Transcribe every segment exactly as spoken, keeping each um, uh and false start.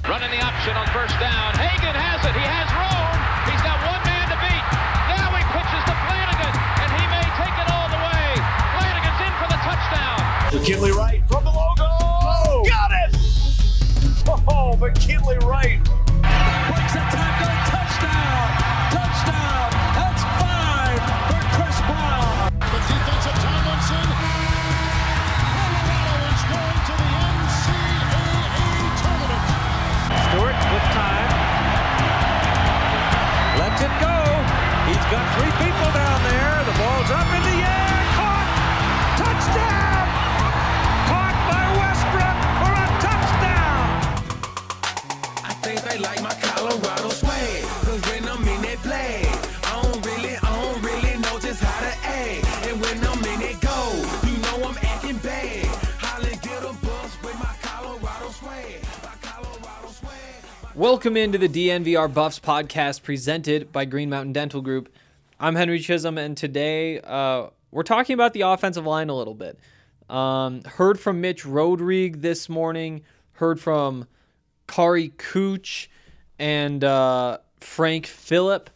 Running the option on first down. Hagan has it. He has room. He's got one man to beat. Now he pitches to Flanagan, and he may take it all the way. Flanagan's in for the touchdown. McKinley Wright from the logo. Oh, got it! Oh, McKinley Wright. Breaks a tackle. Touchdown. Touchdown. That's five for Chris Brown. The defensive Tomlinson. Colorado is going to the N C double A tournament. Stewart with time. Lets it go. He's got three people down there. The ball's up in the air. Caught. Touchdown. Caught by Westbrook for a touchdown. I think they like my Colorado swag. Cause when I'm in that play, I don't really, I don't really know just how to act. And when I'm in it go, you know I'm acting bad. Holly get a bus with my Colorado swag. My Colorado swag. Welcome into the D N V R Buffs podcast presented by Green Mountain Dental Group. I'm Henry Chisholm, and today uh, we're talking about the offensive line a little bit. Um, heard from Mitch Rodrigue this morning, heard from Kari Cooch and uh, Frank Phillip.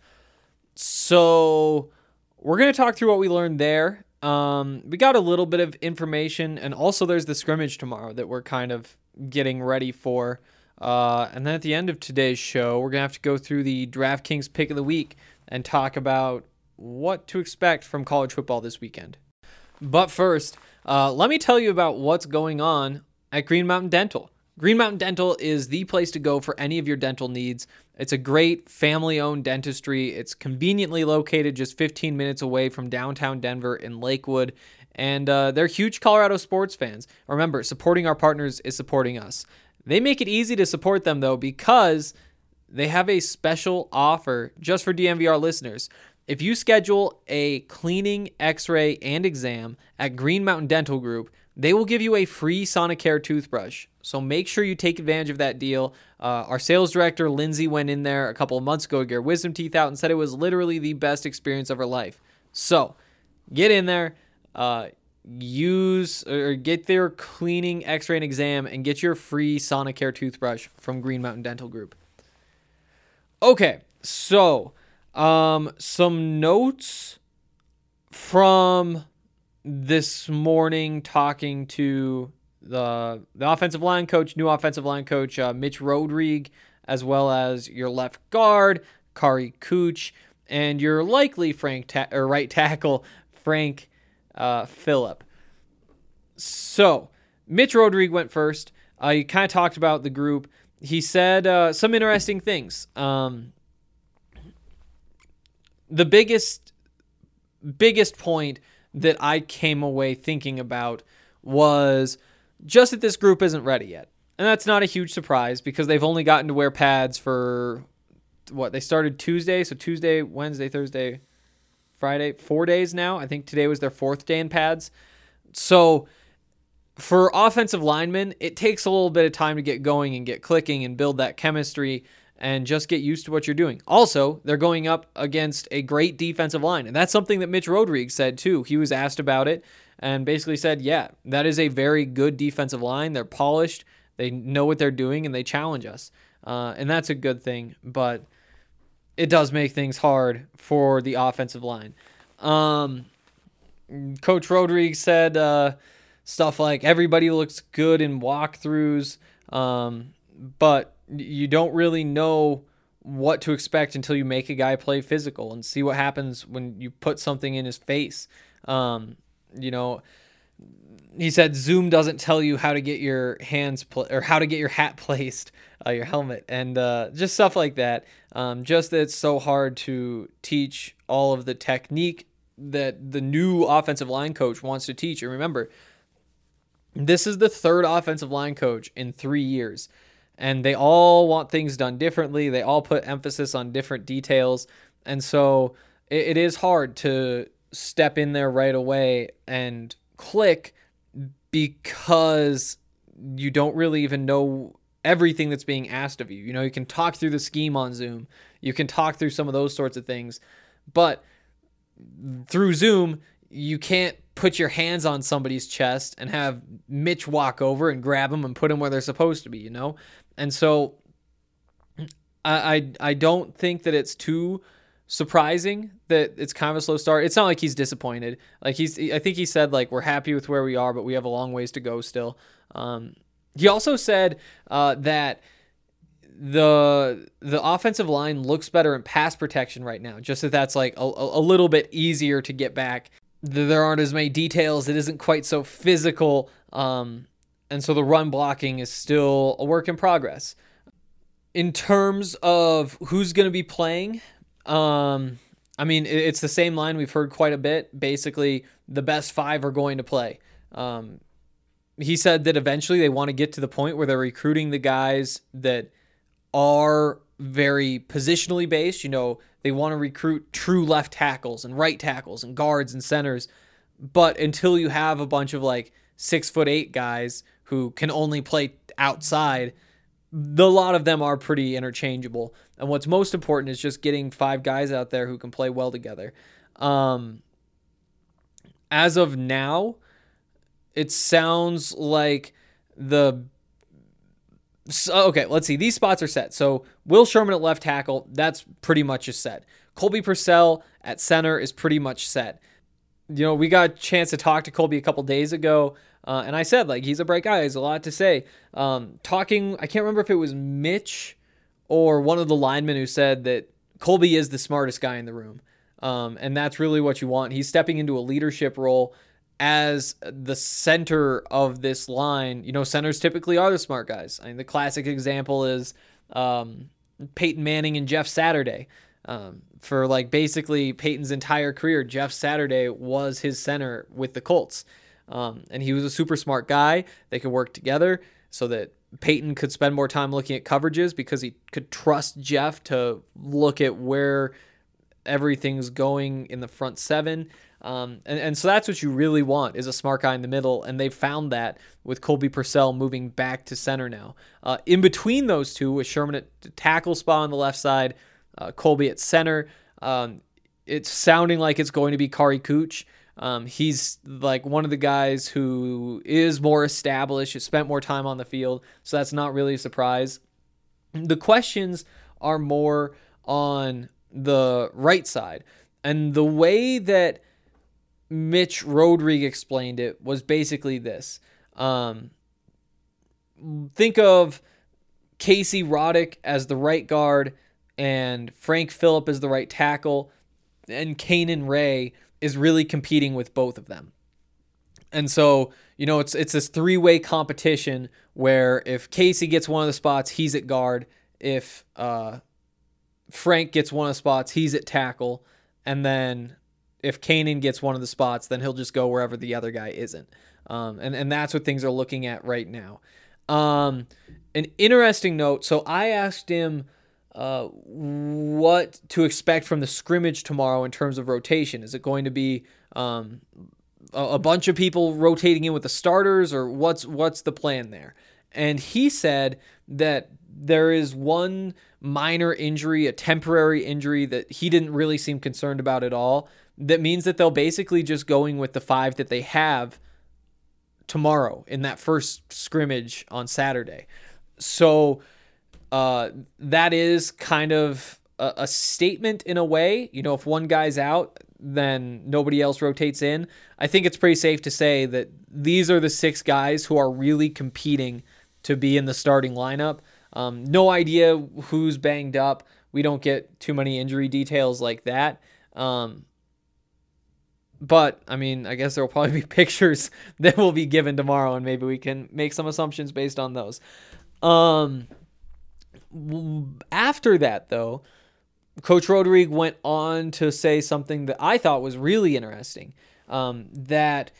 So we're going to talk through what we learned there. Um, we got a little bit of information, and also there's the scrimmage tomorrow that we're kind of getting ready for. Uh, and then at the end of today's show, we're going to have to go through the DraftKings pick of the week and talk about what to expect from college football this weekend. But first, uh, let me tell you about what's going on at Green Mountain Dental. Green Mountain Dental is the place to go for any of your dental needs. It's a great family-owned dentistry. It's conveniently located just fifteen minutes away from downtown Denver in Lakewood. And uh, they're huge Colorado sports fans. Remember, supporting our partners is supporting us. They make it easy to support them, though, because they have a special offer just for D N V R listeners. If you schedule a cleaning, x-ray, and exam at Green Mountain Dental Group, they will give you a free Sonicare toothbrush. So make sure you take advantage of that deal. Uh, our sales director, Lindsay, went in there a couple of months ago to get her wisdom teeth out and said it was literally the best experience of her life. So get in there, uh, use or get their cleaning, x-ray, and exam, and get your free Sonicare toothbrush from Green Mountain Dental Group. Okay, so um, some notes from this morning talking to the the offensive line coach, new offensive line coach, uh, Mitch Rodrigue, as well as your left guard, Kari Cooch, and your likely Frank ta- or right tackle, Frank uh, Phillip. So, Mitch Rodrigue went first. Uh, he kind of talked about the group. He said uh, some interesting things. Um, the biggest, biggest point that I came away thinking about was just that this group isn't ready yet. And that's not a huge surprise because they've only gotten to wear pads for, what, they started Tuesday, so Tuesday, Wednesday, Thursday, Friday, four days now. I think today was their fourth day in pads. So for offensive linemen, it takes a little bit of time to get going and get clicking and build that chemistry and just get used to what you're doing. Also, they're going up against a great defensive line, and that's something that Mitch Rodrigue said too. He was asked about it and basically said, yeah, that is a very good defensive line. They're polished, they know what they're doing, and they challenge us. Uh, and that's a good thing, but it does make things hard for the offensive line. Um, Coach Rodrigue said uh, stuff like everybody looks good in walkthroughs, um, but you don't really know what to expect until you make a guy play physical and see what happens when you put something in his face. Um, you know, he said Zoom doesn't tell you how to get your hands pl- or how to get your hat placed, uh, your helmet, and uh, just stuff like that. Um, just that it's so hard to teach all of the technique that the new offensive line coach wants to teach. And remember, this is the third offensive line coach in three years. And they all want things done differently. They all put emphasis on different details. And so it, it is hard to step in there right away and click because you don't really even know everything that's being asked of you. You know, you can talk through the scheme on Zoom. You can talk through some of those sorts of things. But through Zoom, you can't put your hands on somebody's chest and have Mitch walk over and grab them and put them where they're supposed to be, you know? And so I, I I don't think that it's too surprising that it's kind of a slow start. It's not like he's disappointed. Like he's, I think he said like we're happy with where we are, but we have a long ways to go still. Um, he also said uh, that the the offensive line looks better in pass protection right now. Just that that's like a, a little bit easier to get back. There aren't as many details. It isn't quite so physical, um, and so the run blocking is still a work in progress. In terms of who's going to be playing, um, I mean, it's the same line we've heard quite a bit. Basically, the best five are going to play. Um, he said that eventually they want to get to the point where they're recruiting the guys that are very positionally based. You know, they want to recruit true left tackles and right tackles and guards and centers. But until you have a bunch of like six foot eight guys who can only play outside, the lot of them are pretty interchangeable. And what's most important is just getting five guys out there who can play well together. Um, as of now, it sounds like the... So, okay, let's see. These spots are set. So Will Sherman at left tackle, that's pretty much just set. Colby Purcell at center is pretty much set. You know, we got a chance to talk to Colby a couple days ago. Uh, and I said, like, he's a bright guy. He has a lot to say. Um, talking, I can't remember if it was Mitch or one of the linemen who said that Colby is the smartest guy in the room. Um, and that's really what you want. He's stepping into a leadership role as the center of this line. You know, centers typically are the smart guys. I mean, the classic example is um, Peyton Manning and Jeff Saturday. Um, for, like, basically Peyton's entire career, Jeff Saturday was his center with the Colts. Um, and he was a super smart guy. They could work together so that Peyton could spend more time looking at coverages because he could trust Jeff to look at where everything's going in the front seven. Um, and, and so that's what you really want, is a smart guy in the middle. And they found that with Colby Purcell moving back to center now. Uh, in between those two, with Sherman at the tackle spot on the left side, uh, Colby at center, um, it's sounding like it's going to be Kari Cooch. Um, he's like one of the guys who is more established, has spent more time on the field, so that's not really a surprise. The questions are more on the right side. And the way that Mitch Rodrigue explained it was basically this. Um, think of Casey Roddick as the right guard and Frank Phillip as the right tackle, and Kanan Ray is really competing with both of them. And so, you know, it's it's this three-way competition where if Casey gets one of the spots, he's at guard. If uh, Frank gets one of the spots, he's at tackle. And then if Kanan gets one of the spots, then he'll just go wherever the other guy isn't. Um, and, and that's what things are looking at right now. Um, an interesting note, so I asked him Uh, what to expect from the scrimmage tomorrow in terms of rotation. Is it going to be um, a, a bunch of people rotating in with the starters, or what's what's the plan there? And he said that there is one minor injury, a temporary injury that he didn't really seem concerned about at all. That means that they'll basically just going with the five that they have tomorrow in that first scrimmage on Saturday. So Uh, that is kind of a, a statement in a way. You know, if one guy's out, then nobody else rotates in. I think it's pretty safe to say that these are the six guys who are really competing to be in the starting lineup. Um, no idea who's banged up. We don't get too many injury details like that. Um, but, I mean, I guess there will probably be pictures that will be given tomorrow, and maybe we can make some assumptions based on those. Um... After that, though, Coach Rodrigue went on to say something that I thought was really interesting, um, that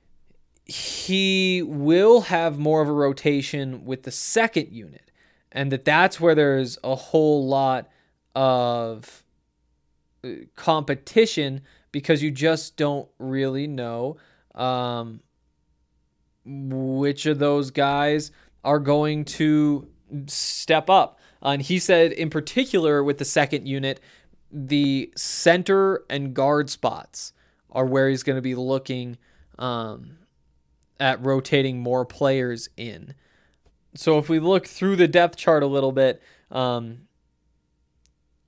he will have more of a rotation with the second unit, and that that's where there's a whole lot of competition because you just don't really know um, which of those guys are going to step up. Uh, and he said in particular with the second unit, the center and guard spots are where he's going to be looking um, at rotating more players in. So if we look through the depth chart a little bit, um,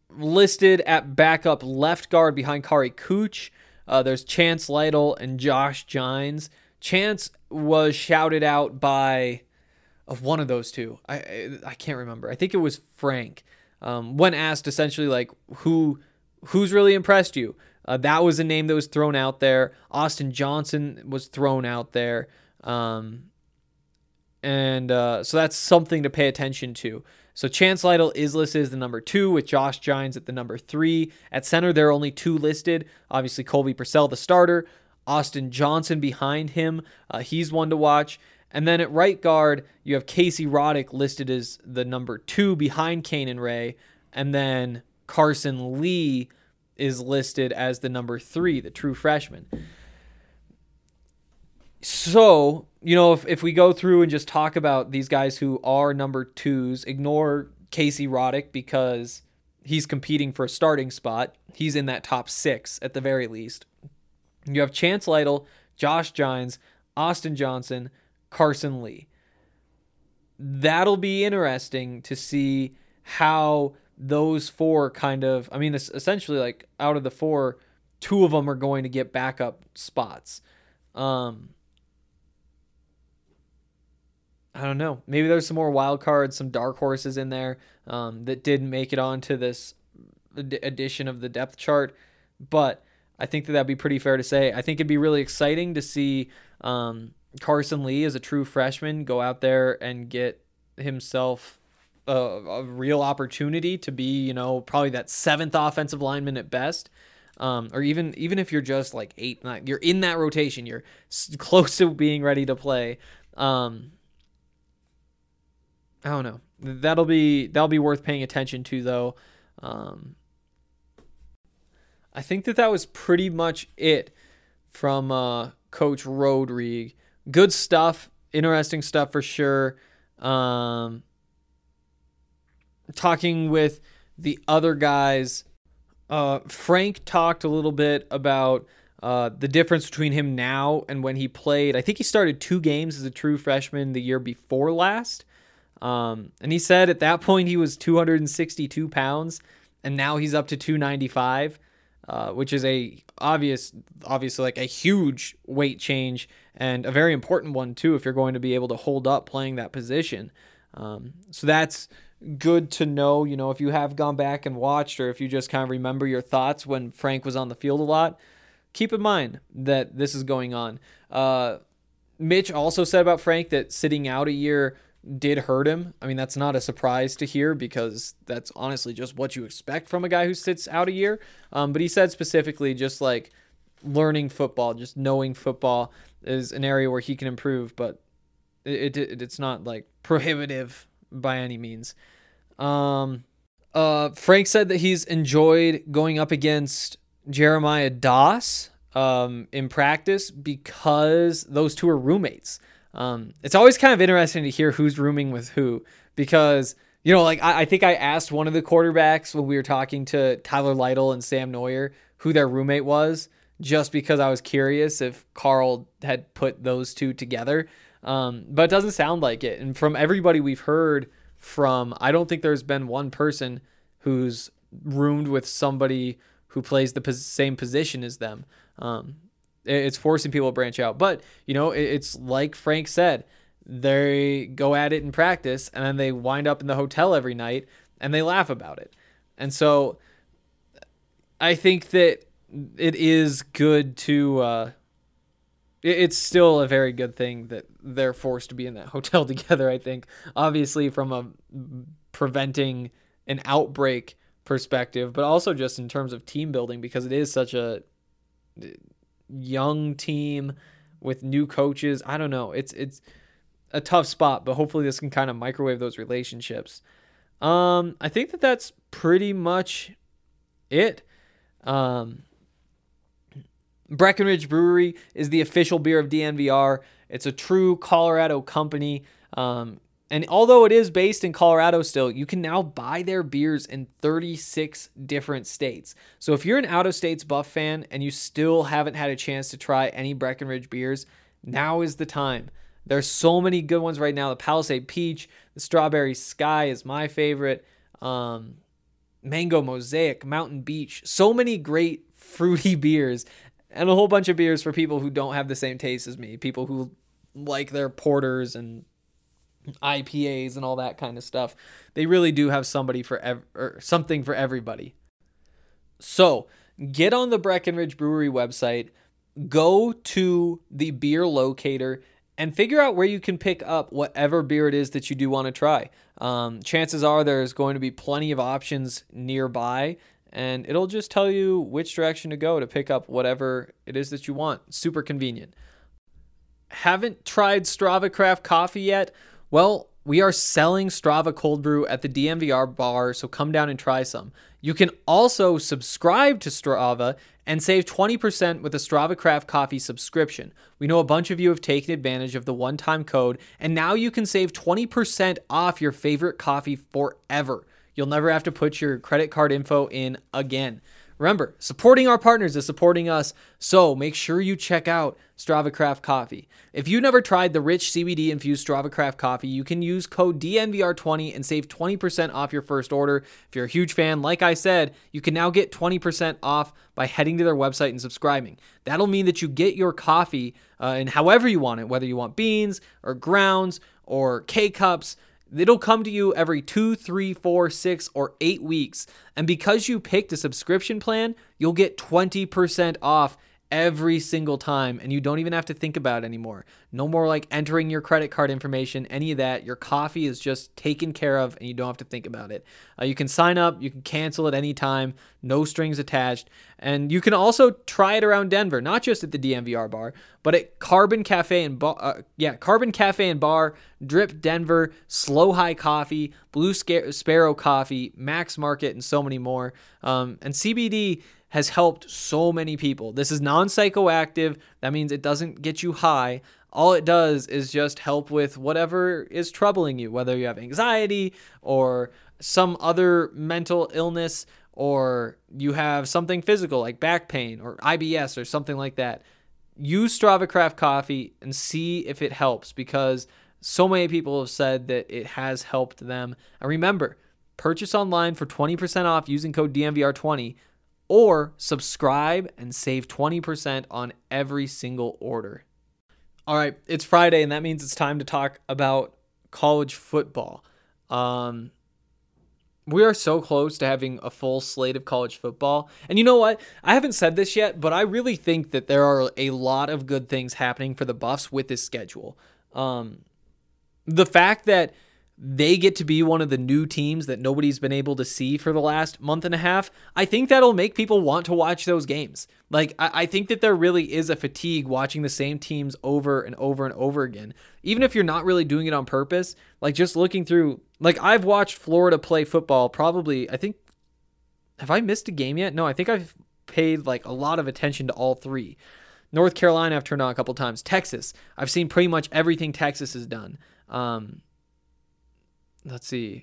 listed at backup left guard behind Kari Cooch. Uh, there's Chance Lytle and Josh Gines. Chance was shouted out by of one of those two. I, I I can't remember. I think it was Frank. Um, when asked essentially like who who's really impressed you, uh, that was a name that was thrown out there. Austin Johnson was thrown out there, um, and uh, so that's something to pay attention to. So Chance Lytle is listed as the number two with Josh Gines at the number three. At center, there are only two listed. Obviously, Colby Purcell, the starter. Austin Johnson behind him. Uh, he's one to watch. And then at right guard, you have Casey Roddick listed as the number two behind Kanan Ray. And then Carson Lee is listed as the number three, the true freshman. So, you know, if, if we go through and just talk about these guys who are number twos, ignore Casey Roddick because he's competing for a starting spot. He's in that top six at the very least. You have Chance Lytle, Josh Gines, Austin Johnson, Carson Lee. That'll be interesting to see how those four kind of, I mean, essentially like out of the four, two of them are going to get backup spots. Um, I don't know. Maybe there's some more wild cards, some dark horses in there um, that didn't make it onto this edition of the depth chart. But I think that that'd be pretty fair to say. I think it'd be really exciting to see um, Carson Lee as a true freshman go out there and get himself a, a real opportunity to be, you know, probably that seventh offensive lineman at best. Um, or even even if you're just like eight, nine, you're in that rotation, you're close to being ready to play. Um, I don't know. That'll be that'll be worth paying attention to, though. Um, I think that that was pretty much it from uh, Coach Rodrigue. Good stuff, interesting stuff for sure. Um, talking with the other guys, uh, Frank talked a little bit about uh, the difference between him now and when he played. I think he started two games as a true freshman the year before last. Um, and he said at that point he was two hundred sixty-two pounds, and now he's up to two ninety-five, uh, which is a obvious, obviously like a huge weight change and a very important one too if you're going to be able to hold up playing that position. Um, so that's good to know. You know, if you have gone back and watched, or if you just kind of remember your thoughts when Frank was on the field a lot, keep in mind that this is going on. Uh, Mitch also said about Frank that sitting out a year did hurt him. I mean, that's not a surprise to hear because that's honestly just what you expect from a guy who sits out a year. Um, but he said specifically just like learning football, just knowing football is an area where he can improve, but it, it it's not like prohibitive by any means. Um, uh, Frank said that he's enjoyed going up against Jeremiah Doss um, in practice because those two are roommates. Um, it's always kind of interesting to hear who's rooming with who because, you know, like I, I think I asked one of the quarterbacks when we were talking to Tyler Lytle and Sam Neuer who their roommate was, just because I was curious if Carl had put those two together. Um, but it doesn't sound like it. And from everybody we've heard from, I don't think there's been one person who's roomed with somebody who plays the pos- same position as them. Um, It's forcing people to branch out. But, you know, it's like Frank said, they go at it in practice and then they wind up in the hotel every night and they laugh about it. And so I think that it is good to, uh, it's still a very good thing that they're forced to be in that hotel together, I think. Obviously from a preventing an outbreak perspective, but also just in terms of team building because it is such a young team with new coaches. I don't know. It's it's a tough spot, but hopefully this can kind of microwave those relationships. Um, I think that that's pretty much it. Um, Breckenridge Brewery is the official beer of D N V R. It's a true Colorado company. Um, and although it is based in Colorado still, you can now buy their beers in thirty-six different states. So if you're an out-of-states Buff fan and you still haven't had a chance to try any Breckenridge beers, now is the time. There's so many good ones right now. The Palisade Peach, the Strawberry Sky is my favorite. Um, Mango Mosaic, Mountain Beach, so many great fruity beers, and a whole bunch of beers for people who don't have the same taste as me, people who like their porters and I P As and all that kind of stuff. They really do have somebody for ev- or something for everybody. So get on the Breckenridge Brewery website, go to the beer locator, and figure out where you can pick up whatever beer it is that you do want to try. Um, chances are there's going to be plenty of options nearby, and it'll just tell you which direction to go to pick up whatever it is that you want. Super convenient. Haven't tried Strava Craft Coffee yet? Well, we are selling Strava Cold Brew at the D M V R bar, so come down and try some. You can also subscribe to Strava and save twenty percent with a Strava Craft Coffee subscription. We know a bunch of you have taken advantage of the one-time code, and now you can save twenty percent off your favorite coffee forever. You'll never have to put your credit card info in again. Remember, supporting our partners is supporting us, so make sure you check out Strava Craft Coffee. If you've never tried the rich C B D-infused Strava Craft Coffee, you can use code D N V R twenty and save twenty percent off your first order. If you're a huge fan, like I said, you can now get twenty percent off by heading to their website and subscribing. That'll mean that you get your coffee uh, in however you want it, whether you want beans or grounds or K-Cups. It'll come to you every two, three, four, six, or eight weeks. And because you picked a subscription plan, you'll get twenty percent off every single time, and you don't even have to think about it anymore. No more like entering your credit card information, any of that. Your coffee is just taken care of, and you don't have to think about it. Uh, you can sign up, you can cancel at any time, no strings attached, and you can also try it around Denver, not just at the D M V R bar, but at Carbon Cafe and Bar, uh, yeah, Carbon Cafe and Bar, Drip Denver, Slow High Coffee, Blue Scar- Sparrow Coffee, Max Market, and so many more. Um, and C B D has helped so many people. This is non-psychoactive. That means it doesn't get you high. All it does is just help with whatever is troubling you, whether you have anxiety or some other mental illness, or you have something physical like back pain or I B S or something like that. Use Strava Craft Coffee and see if it helps, because so many people have said that it has helped them. And remember, purchase online for twenty percent off using code D M V R twenty, or subscribe and save twenty percent on every single order. All right, it's Friday, and that means it's time to talk about college football. Um, we are so close to having a full slate of college football. And you know what? I haven't said this yet, but I really think that there are a lot of good things happening for the Buffs with this schedule. Um, the fact that they get to be one of the new teams that nobody's been able to see for the last month and a half, I think that'll make people want to watch those games. Like, I, I think that there really is a fatigue watching the same teams over and over and over again. Even if you're not really doing it on purpose, like just looking through, like I've watched Florida play football probably, I think, have I missed a game yet? No, I think I've paid like a lot of attention to all three. North Carolina I've turned on a couple times. Texas, I've seen pretty much everything Texas has done. Um, Let's see.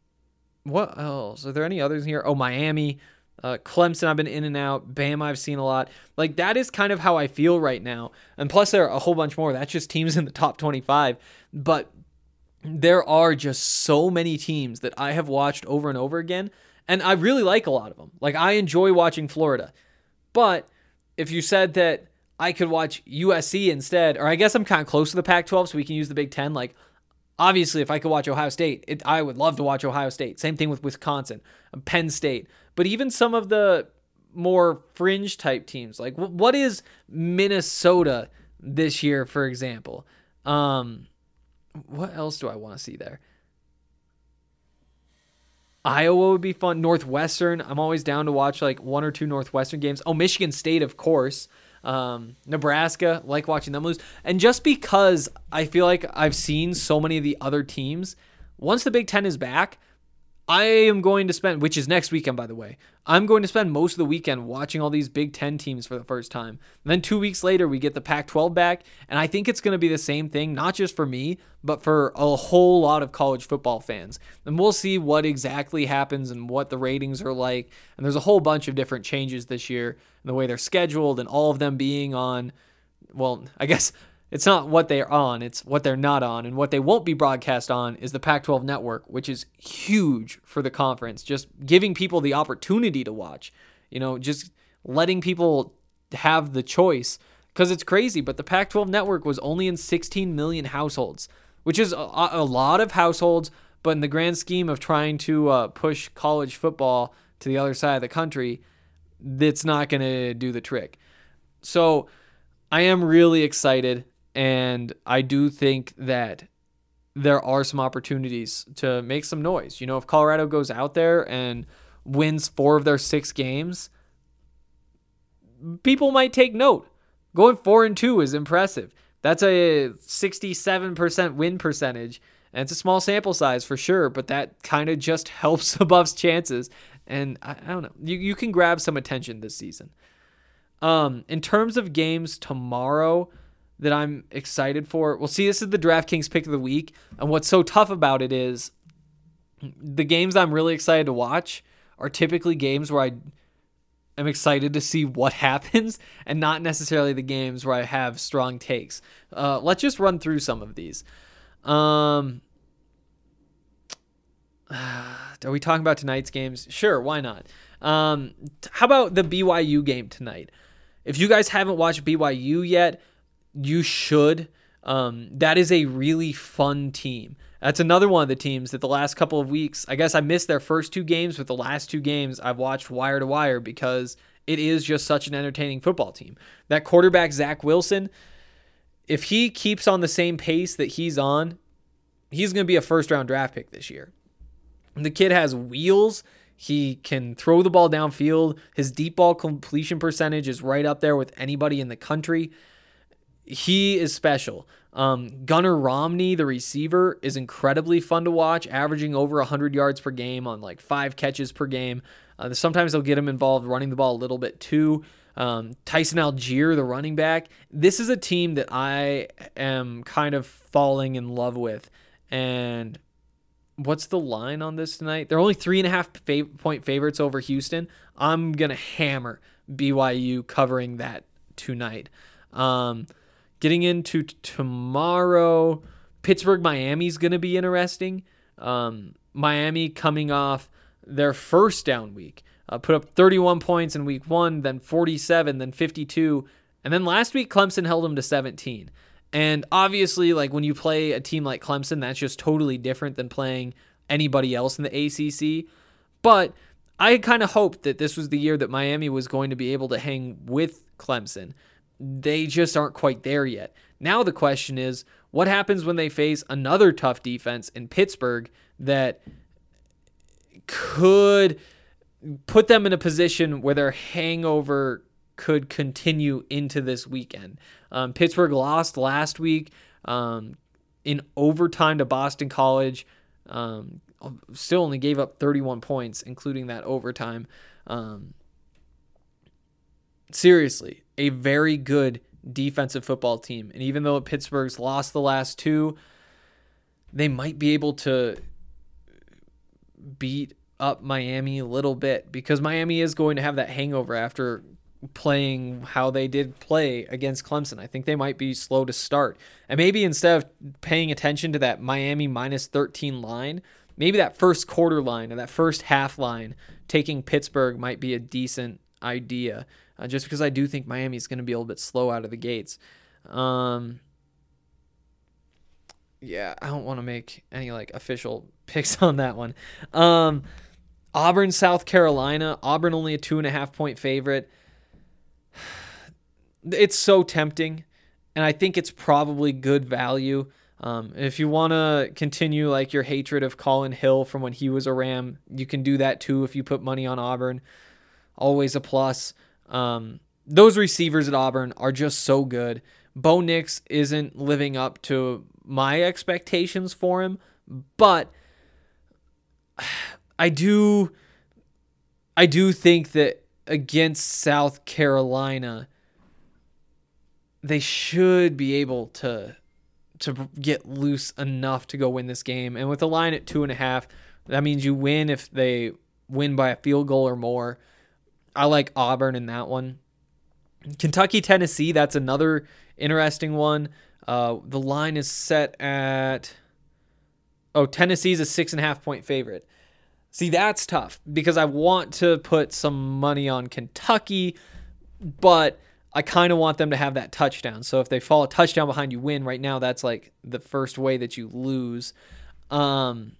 What else? Are there any others here? Oh, Miami, uh, Clemson, I've been in and out. Bama, I've seen a lot. Like, that is kind of how I feel right now. And plus, there are a whole bunch more. That's just teams in the top twenty-five. But there are just so many teams that I have watched over and over again. And I really like a lot of them. Like, I enjoy watching Florida. But if you said that I could watch U S C instead, or I guess I'm kind of close to the Pac twelve, so we can use the Big Ten, like, obviously, if I could watch Ohio State, it, I would love to watch Ohio State. Same thing with Wisconsin, Penn State. But even some of the more fringe type teams, like what is Minnesota this year, for example? Um, what else do I want to see there? Iowa would be fun. Northwestern, I'm always down to watch like one or two Northwestern games. Oh, Michigan State, of course. Um, Nebraska, like watching them lose. And just because I feel like I've seen so many of the other teams, once the Big Ten is back, I am going to spend, which is next weekend, by the way, I'm going to spend most of the weekend watching all these Big Ten teams for the first time. And then two weeks later, we get the Pac twelve back. And I think it's going to be the same thing, not just for me, but for a whole lot of college football fans. And we'll see what exactly happens and what the ratings are like. And there's a whole bunch of different changes this year in the way they're scheduled, and all of them being on, well, I guess It's not what they're on, it's what they're not on. And what they won't be broadcast on is the Pac twelve network, which is huge for the conference. Just giving people the opportunity to watch, you know, just letting people have the choice. Because it's crazy, but the Pac twelve network was only in sixteen million households, which is a, a lot of households, but in the grand scheme of trying to uh, push college football to the other side of the country, that's not going to do the trick. So I am really excited, and I do think that there are some opportunities to make some noise. You know, if Colorado goes out there and wins four of their six games, people might take note. Going four and two is impressive. That's a sixty-seven percent win percentage, and it's a small sample size for sure, but that kind of just helps the Buffs' chances. And I, I don't know, you you can grab some attention this season. Um, in terms of games tomorrow that I'm excited for, well, see, this is the DraftKings pick of the week, and what's so tough about it is the games I'm really excited to watch are typically games where I I'm excited to see what happens and not necessarily the games where I have strong takes. Uh, let's just run through some of these. Um, are we talking about tonight's games? Sure, why not? Um, how about the B Y U game tonight? If you guys haven't watched B Y U yet, you should. Um, that is a really fun team. That's another one of the teams that the last couple of weeks, I guess I missed their first two games, but the last two games I've watched wire to wire because it is just such an entertaining football team. That quarterback, Zach Wilson, if he keeps on the same pace that he's on, he's going to be a first-round draft pick this year. The kid has wheels. He can throw the ball downfield. His deep ball completion percentage is right up there with anybody in the country. He is special. Um, Gunnar Romney, the receiver, is incredibly fun to watch, averaging over one hundred yards per game on like five catches per game. Uh, sometimes they'll get him involved running the ball a little bit too. Um, Tyson Algier, the running back. This is a team that I am kind of falling in love with. And what's the line on this tonight? They're only three and a half fav- point favorites over Houston. I'm going to hammer B Y U covering that tonight. Um, Getting into t- tomorrow, Pittsburgh, Miami is going to be interesting. Um, Miami coming off their first down week. Uh, put up thirty-one points in week one, then forty-seven, then fifty-two. And then last week, Clemson held them to seventeen. And obviously, like when you play a team like Clemson, that's just totally different than playing anybody else in the A C C. But I kind of hoped that this was the year that Miami was going to be able to hang with Clemson. They just aren't quite there yet. Now the question is, what happens when they face another tough defense in Pittsburgh that could put them in a position where their hangover could continue into this weekend? Um, Pittsburgh lost last week um, in overtime to Boston College. Um, still only gave up thirty-one points, including that overtime. Um, seriously, a very good defensive football team. And even though Pittsburgh's lost the last two, they might be able to beat up Miami a little bit because Miami is going to have that hangover after playing how they did play against Clemson. I think they might be slow to start. And maybe instead of paying attention to that Miami minus thirteen line, maybe that first quarter line or that first half line, taking Pittsburgh might be a decent idea. Uh, just because I do think Miami is going to be a little bit slow out of the gates. Um, yeah, I don't want to make any like official picks on that one. Um, Auburn, South Carolina. Auburn only a two and a half point favorite. It's so tempting, and I think it's probably good value. Um, if you want to continue like your hatred of Colin Hill from when he was a Ram, you can do that too if you put money on Auburn. Always a plus. Um, those receivers at Auburn are just so good. Bo Nix isn't living up to my expectations for him, but I do, I do think that against South Carolina, they should be able to, to get loose enough to go win this game. And with the line at two and a half, that means you win if they win by a field goal or more. I like Auburn in that one. Kentucky, Tennessee, that's another interesting one. Uh, the line is set at, oh, Tennessee's a six and a half point favorite. See, that's tough because I want to put some money on Kentucky, but I kind of want them to have that touchdown. So if they fall a touchdown behind, you win. Right now, that's like the first way that you lose. Um,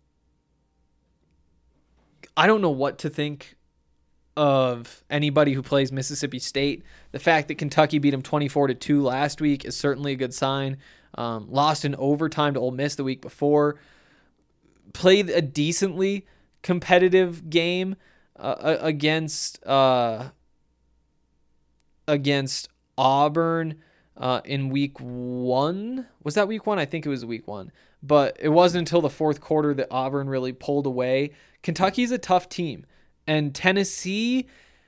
I don't know what to think of anybody who plays Mississippi State. The fact that Kentucky beat them twenty-four to two last week is certainly a good sign. Um, lost in overtime to Ole Miss the week before. Played a decently competitive game uh, against uh, against Auburn uh, in week one. Was that week one? I think it was week one. But it wasn't until the fourth quarter that Auburn really pulled away. Kentucky's a tough team. And Tennessee,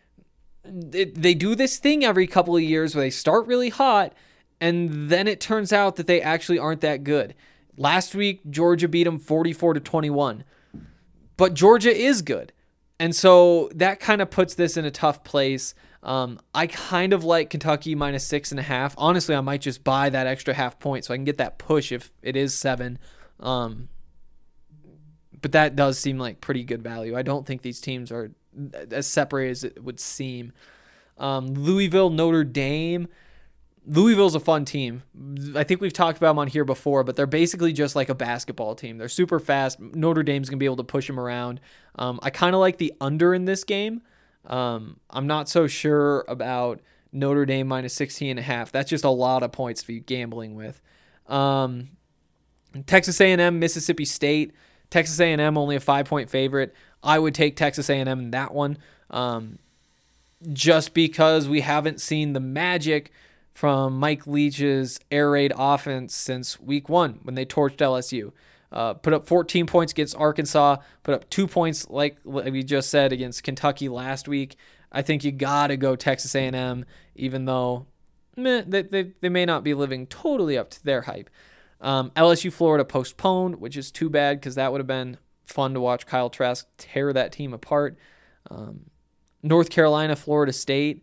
it, they do this thing every couple of years where they start really hot, and then it turns out that they actually aren't that good. Last week, Georgia beat them forty-four to twenty-one. But Georgia is good. And so that kind of puts this in a tough place. Um, I kind of like Kentucky minus six and a half. Honestly, I might just buy that extra half point so I can get that push if it is seven. Um, but that does seem like pretty good value. I don't think these teams are as separated as it would seem. Um, Louisville, Notre Dame. Louisville's a fun team. I think we've talked about them on here before, but they're basically just like a basketball team. They're super fast. Notre Dame's going to be able to push them around. Um, I kind of like the under in this game. Um, I'm not so sure about Notre Dame minus sixteen and a half. That's just a lot of points to be gambling with. Um, Texas A and M, Mississippi State. Texas A and M only a five-point favorite. I would take Texas A and M in that one um, just because we haven't seen the magic from Mike Leach's air raid offense since week one when they torched L S U. Uh, put up fourteen points against Arkansas, put up two points, like we just said, against Kentucky last week. I think you got to go Texas A and M, even though meh, they, they, they may not be living totally up to their hype. Um, L S U Florida postponed, which is too bad because that would have been fun to watch Kyle Trask tear that team apart. Um, North Carolina, Florida State.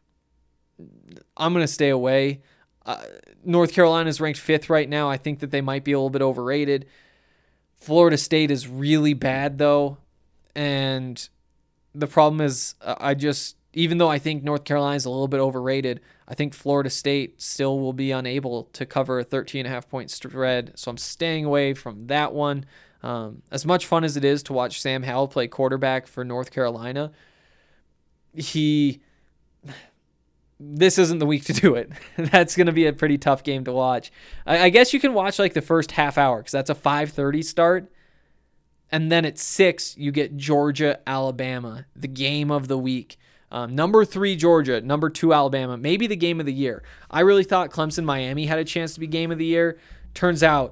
I'm going to stay away. Uh, North Carolina is ranked fifth right now. I think that they might be a little bit overrated. Florida State is really bad, though. And the problem is, uh, I just, even though I think North Carolina is a little bit overrated, I think Florida State still will be unable to cover a thirteen and a half point spread. So I'm staying away from that one. Um, as much fun as it is to watch Sam Howell play quarterback for North Carolina, he... this isn't the week to do it. That's going to be a pretty tough game to watch. I, I guess you can watch like the first half hour because that's a five thirty start. And then at six, you get Georgia, Alabama, the game of the week. Um, number three, Georgia. Number two, Alabama. Maybe the game of the year. I really thought Clemson, Miami had a chance to be game of the year. Turns out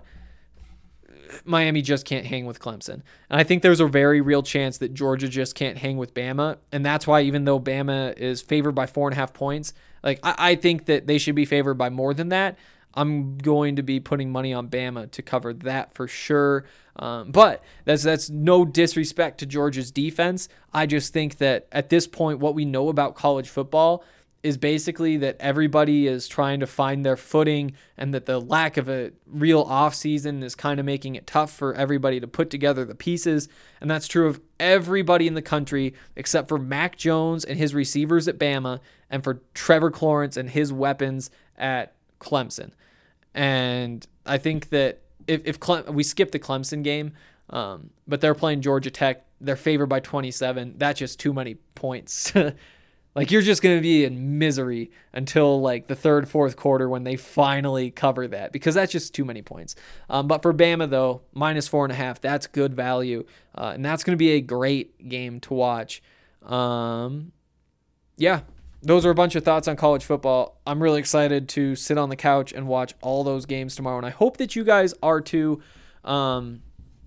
Miami just can't hang with Clemson. And I think there's a very real chance that Georgia just can't hang with Bama. And that's why even though Bama is favored by four and a half points, like I, I think that they should be favored by more than that. I'm going to be putting money on Bama to cover that for sure. Um, but that's that's no disrespect to Georgia's defense. I just think that at this point, what we know about college football is basically that everybody is trying to find their footing and that the lack of a real offseason is kind of making it tough for everybody to put together the pieces. And that's true of everybody in the country except for Mac Jones and his receivers at Bama and for Trevor Lawrence and his weapons at Clemson. And I think that if, if Cle- we skip the Clemson game, um, but they're playing Georgia Tech, they're favored by twenty-seven. That's just too many points. Like, you're just going to be in misery until, like, the third, fourth quarter when they finally cover that, because that's just too many points. Um, but for Bama, though, minus four and a half, that's good value, uh, and that's going to be a great game to watch. Um, yeah, those are a bunch of thoughts on college football. I'm really excited to sit on the couch and watch all those games tomorrow, and I hope that you guys are too. Um,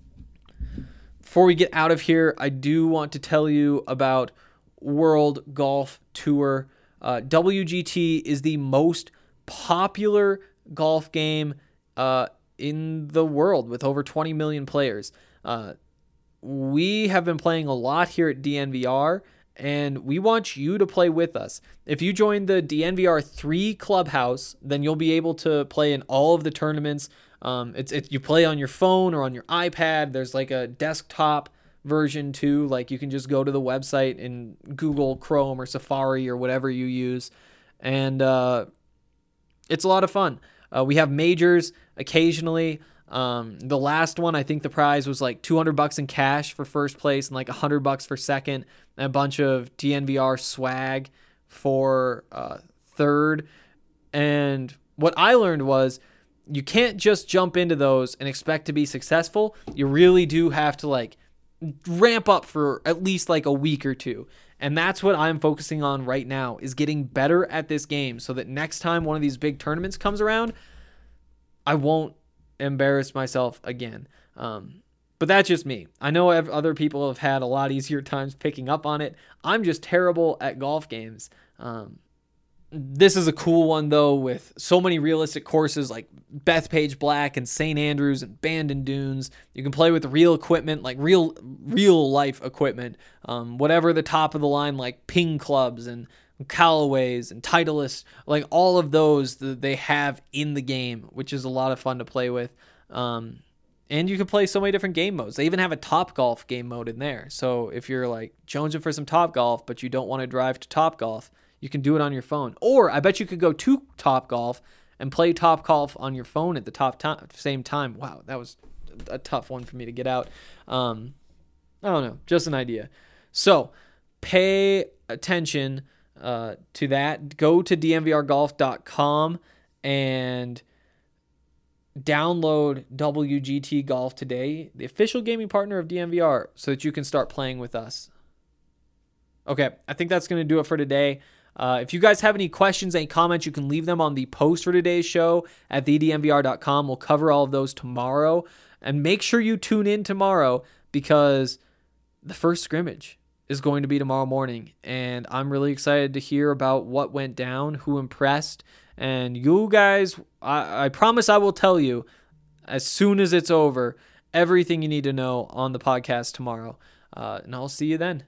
before we get out of here, I do want to tell you about World Golf Tour. Uh, W G T is the most popular golf game uh, in the world with over twenty million players. Uh, we have been playing a lot here at D N V R, and we want you to play with us. If you join the D N V R three Clubhouse, then you'll be able to play in all of the tournaments. Um, it's it, you play on your phone or on your iPad. There's like a desktop version too. Like you can just go to the website in Google Chrome or Safari or whatever you use, and uh, it's a lot of fun. Uh, we have majors occasionally. Um, the last one, I think the prize was like two hundred bucks in cash for first place and like one hundred bucks for second, and a bunch of D N V R swag for uh, third. And what I learned was you can't just jump into those and expect to be successful. You really do have to like ramp up for at least like a week or two. And that's what I'm focusing on right now, is getting better at this game so that next time one of these big tournaments comes around, I won't embarrass myself again. Um, but that's just me. I know other people have had a lot easier times picking up on it. I'm just terrible at golf games. Um, This is a cool one, though, with so many realistic courses like Bethpage Black and Saint Andrews and Bandon Dunes. You can play with real equipment, like real real life equipment, um, whatever the top of the line, like Ping clubs and Callaways and Titleist, like all of those that they have in the game, which is a lot of fun to play with. Um, and you can play so many different game modes. They even have a Top Golf game mode in there. So if you're like jonesing for some Top Golf, but you don't want to drive to Top Golf, you can do it on your phone. Or I bet you could go to Top Golf and play Top Golf on your phone at the top time, same time. Wow, that was a tough one for me to get out. Um, I don't know, just an idea. So pay attention uh, to that. Go to D N V R golf dot com and download W G T Golf today, the official gaming partner of D N V R, so that you can start playing with us. Okay, I think that's going to do it for today. Uh, if you guys have any questions, any comments, you can leave them on the post for today's show at the D N V R dot com. We'll cover all of those tomorrow. And make sure you tune in tomorrow, because the first scrimmage is going to be tomorrow morning. And I'm really excited to hear about what went down, who impressed. And you guys, I, I promise I will tell you as soon as it's over everything you need to know on the podcast tomorrow. Uh, and I'll see you then.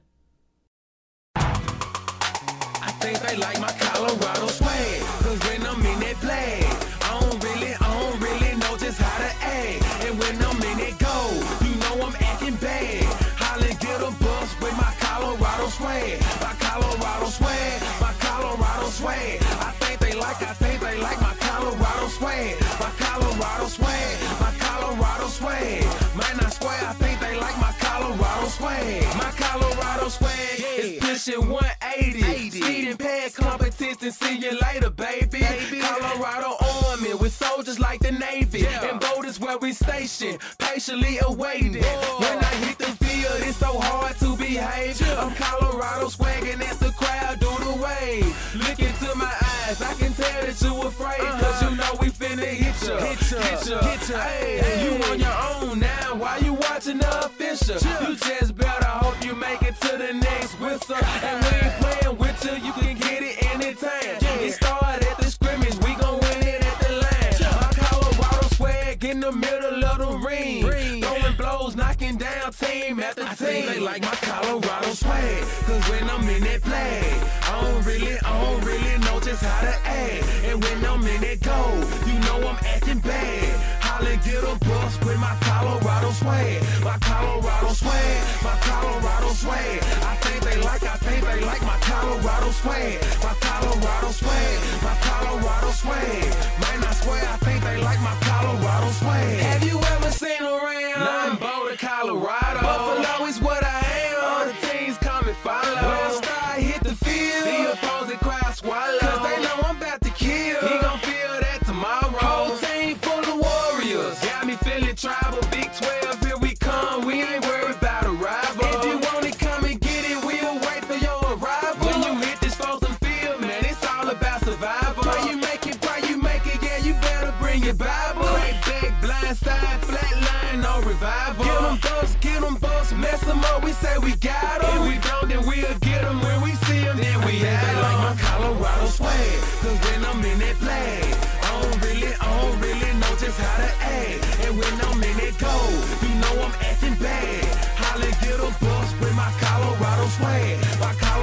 I think they like my Colorado swag, cause when I'm in that play, I don't really, I don't really know just how to act. And when I'm in that go, you know I'm acting bad. Holla, get a bus with my Colorado swag, my Colorado swag, my Colorado swag. I think they like, I think they like my Colorado swag, my Colorado swag, my Colorado swag. Man, I swear, I think they like my Colorado swag, my Colorado swag is pushing one eighty. Speeding past competition, see you later, baby. baby. Colorado Army with soldiers like the Navy. Yeah. And boat is where we station, patiently awaiting. Whoa. When I hit the field, it's so hard to behave. Yeah. I'm Colorado swagging as the crowd do the wave. Look into my eyes, I can tell that you afraid. Uh-huh. Cause you know we finna hit ya. Hit ya, hit ya, hit ya. Hey, hey. You on your own now, why you watching the official? Yeah. You just better hope you make it to the next whistle. And we ain't playing with you, you can get it anytime. Yeah. It started at the scrimmage, we gon' win it at the line. Yeah. My Colorado swag in the middle of the ring. ring. Throwing blows, knocking down team after I team. They like my Colorado swag, cause when I'm in that play, I don't really, I don't really know just how to act. And when I'm in that go, you know I'm acting bad. Holla, get a bus with my Colorado swag, my Colorado swag, my Colorado swag. I think they like, I think they like my Colorado swag, my Colorado swag, my Colorado swag. Man, I swear, I think they like my Colorado swag. Have you ever seen around? Nothing Boulder, Colorado. Buffalo is what I am. All the teams come and follow. When I start hit the field, the opposing crowd swallow. Cause they know I'm about to kill. He gon' feel that tomorrow. Whole team full of warriors. Got me feeling tribal. Big twelve, here we come. We ain't worried about a rival. If you want it, come and get it. We'll wait for your arrival. When you hit this frozen field, man, it's all about survival. Pray you make it, pray you make it. Yeah, you better bring your Bible. Crack back, blind side, flat line, no revival. Get them bucks, get them bucks, mess them up. We say we got them. If we don't, then we'll get them. When we see them, then we have them. Like my Colorado swag, cause when I'm in that flag, I don't really, I don't really know just how to act. And when I'm in that go, you know I'm acting bad. Holla, get a bus with my Colorado swag, my Colorado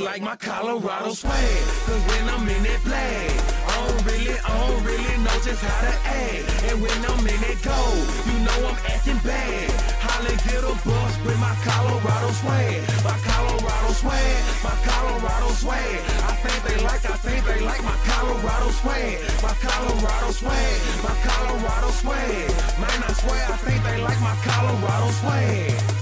like my Colorado swag. Cause when I'm in that play, I don't really, I don't really know just how to act. And when I'm in that go, you know I'm acting bad. Holla, get a bus with my Colorado swag. My Colorado swag, my Colorado swag. I think they like, I think they like my Colorado swag. My Colorado swag, my Colorado swag. Man, I swear I think they like my Colorado swag.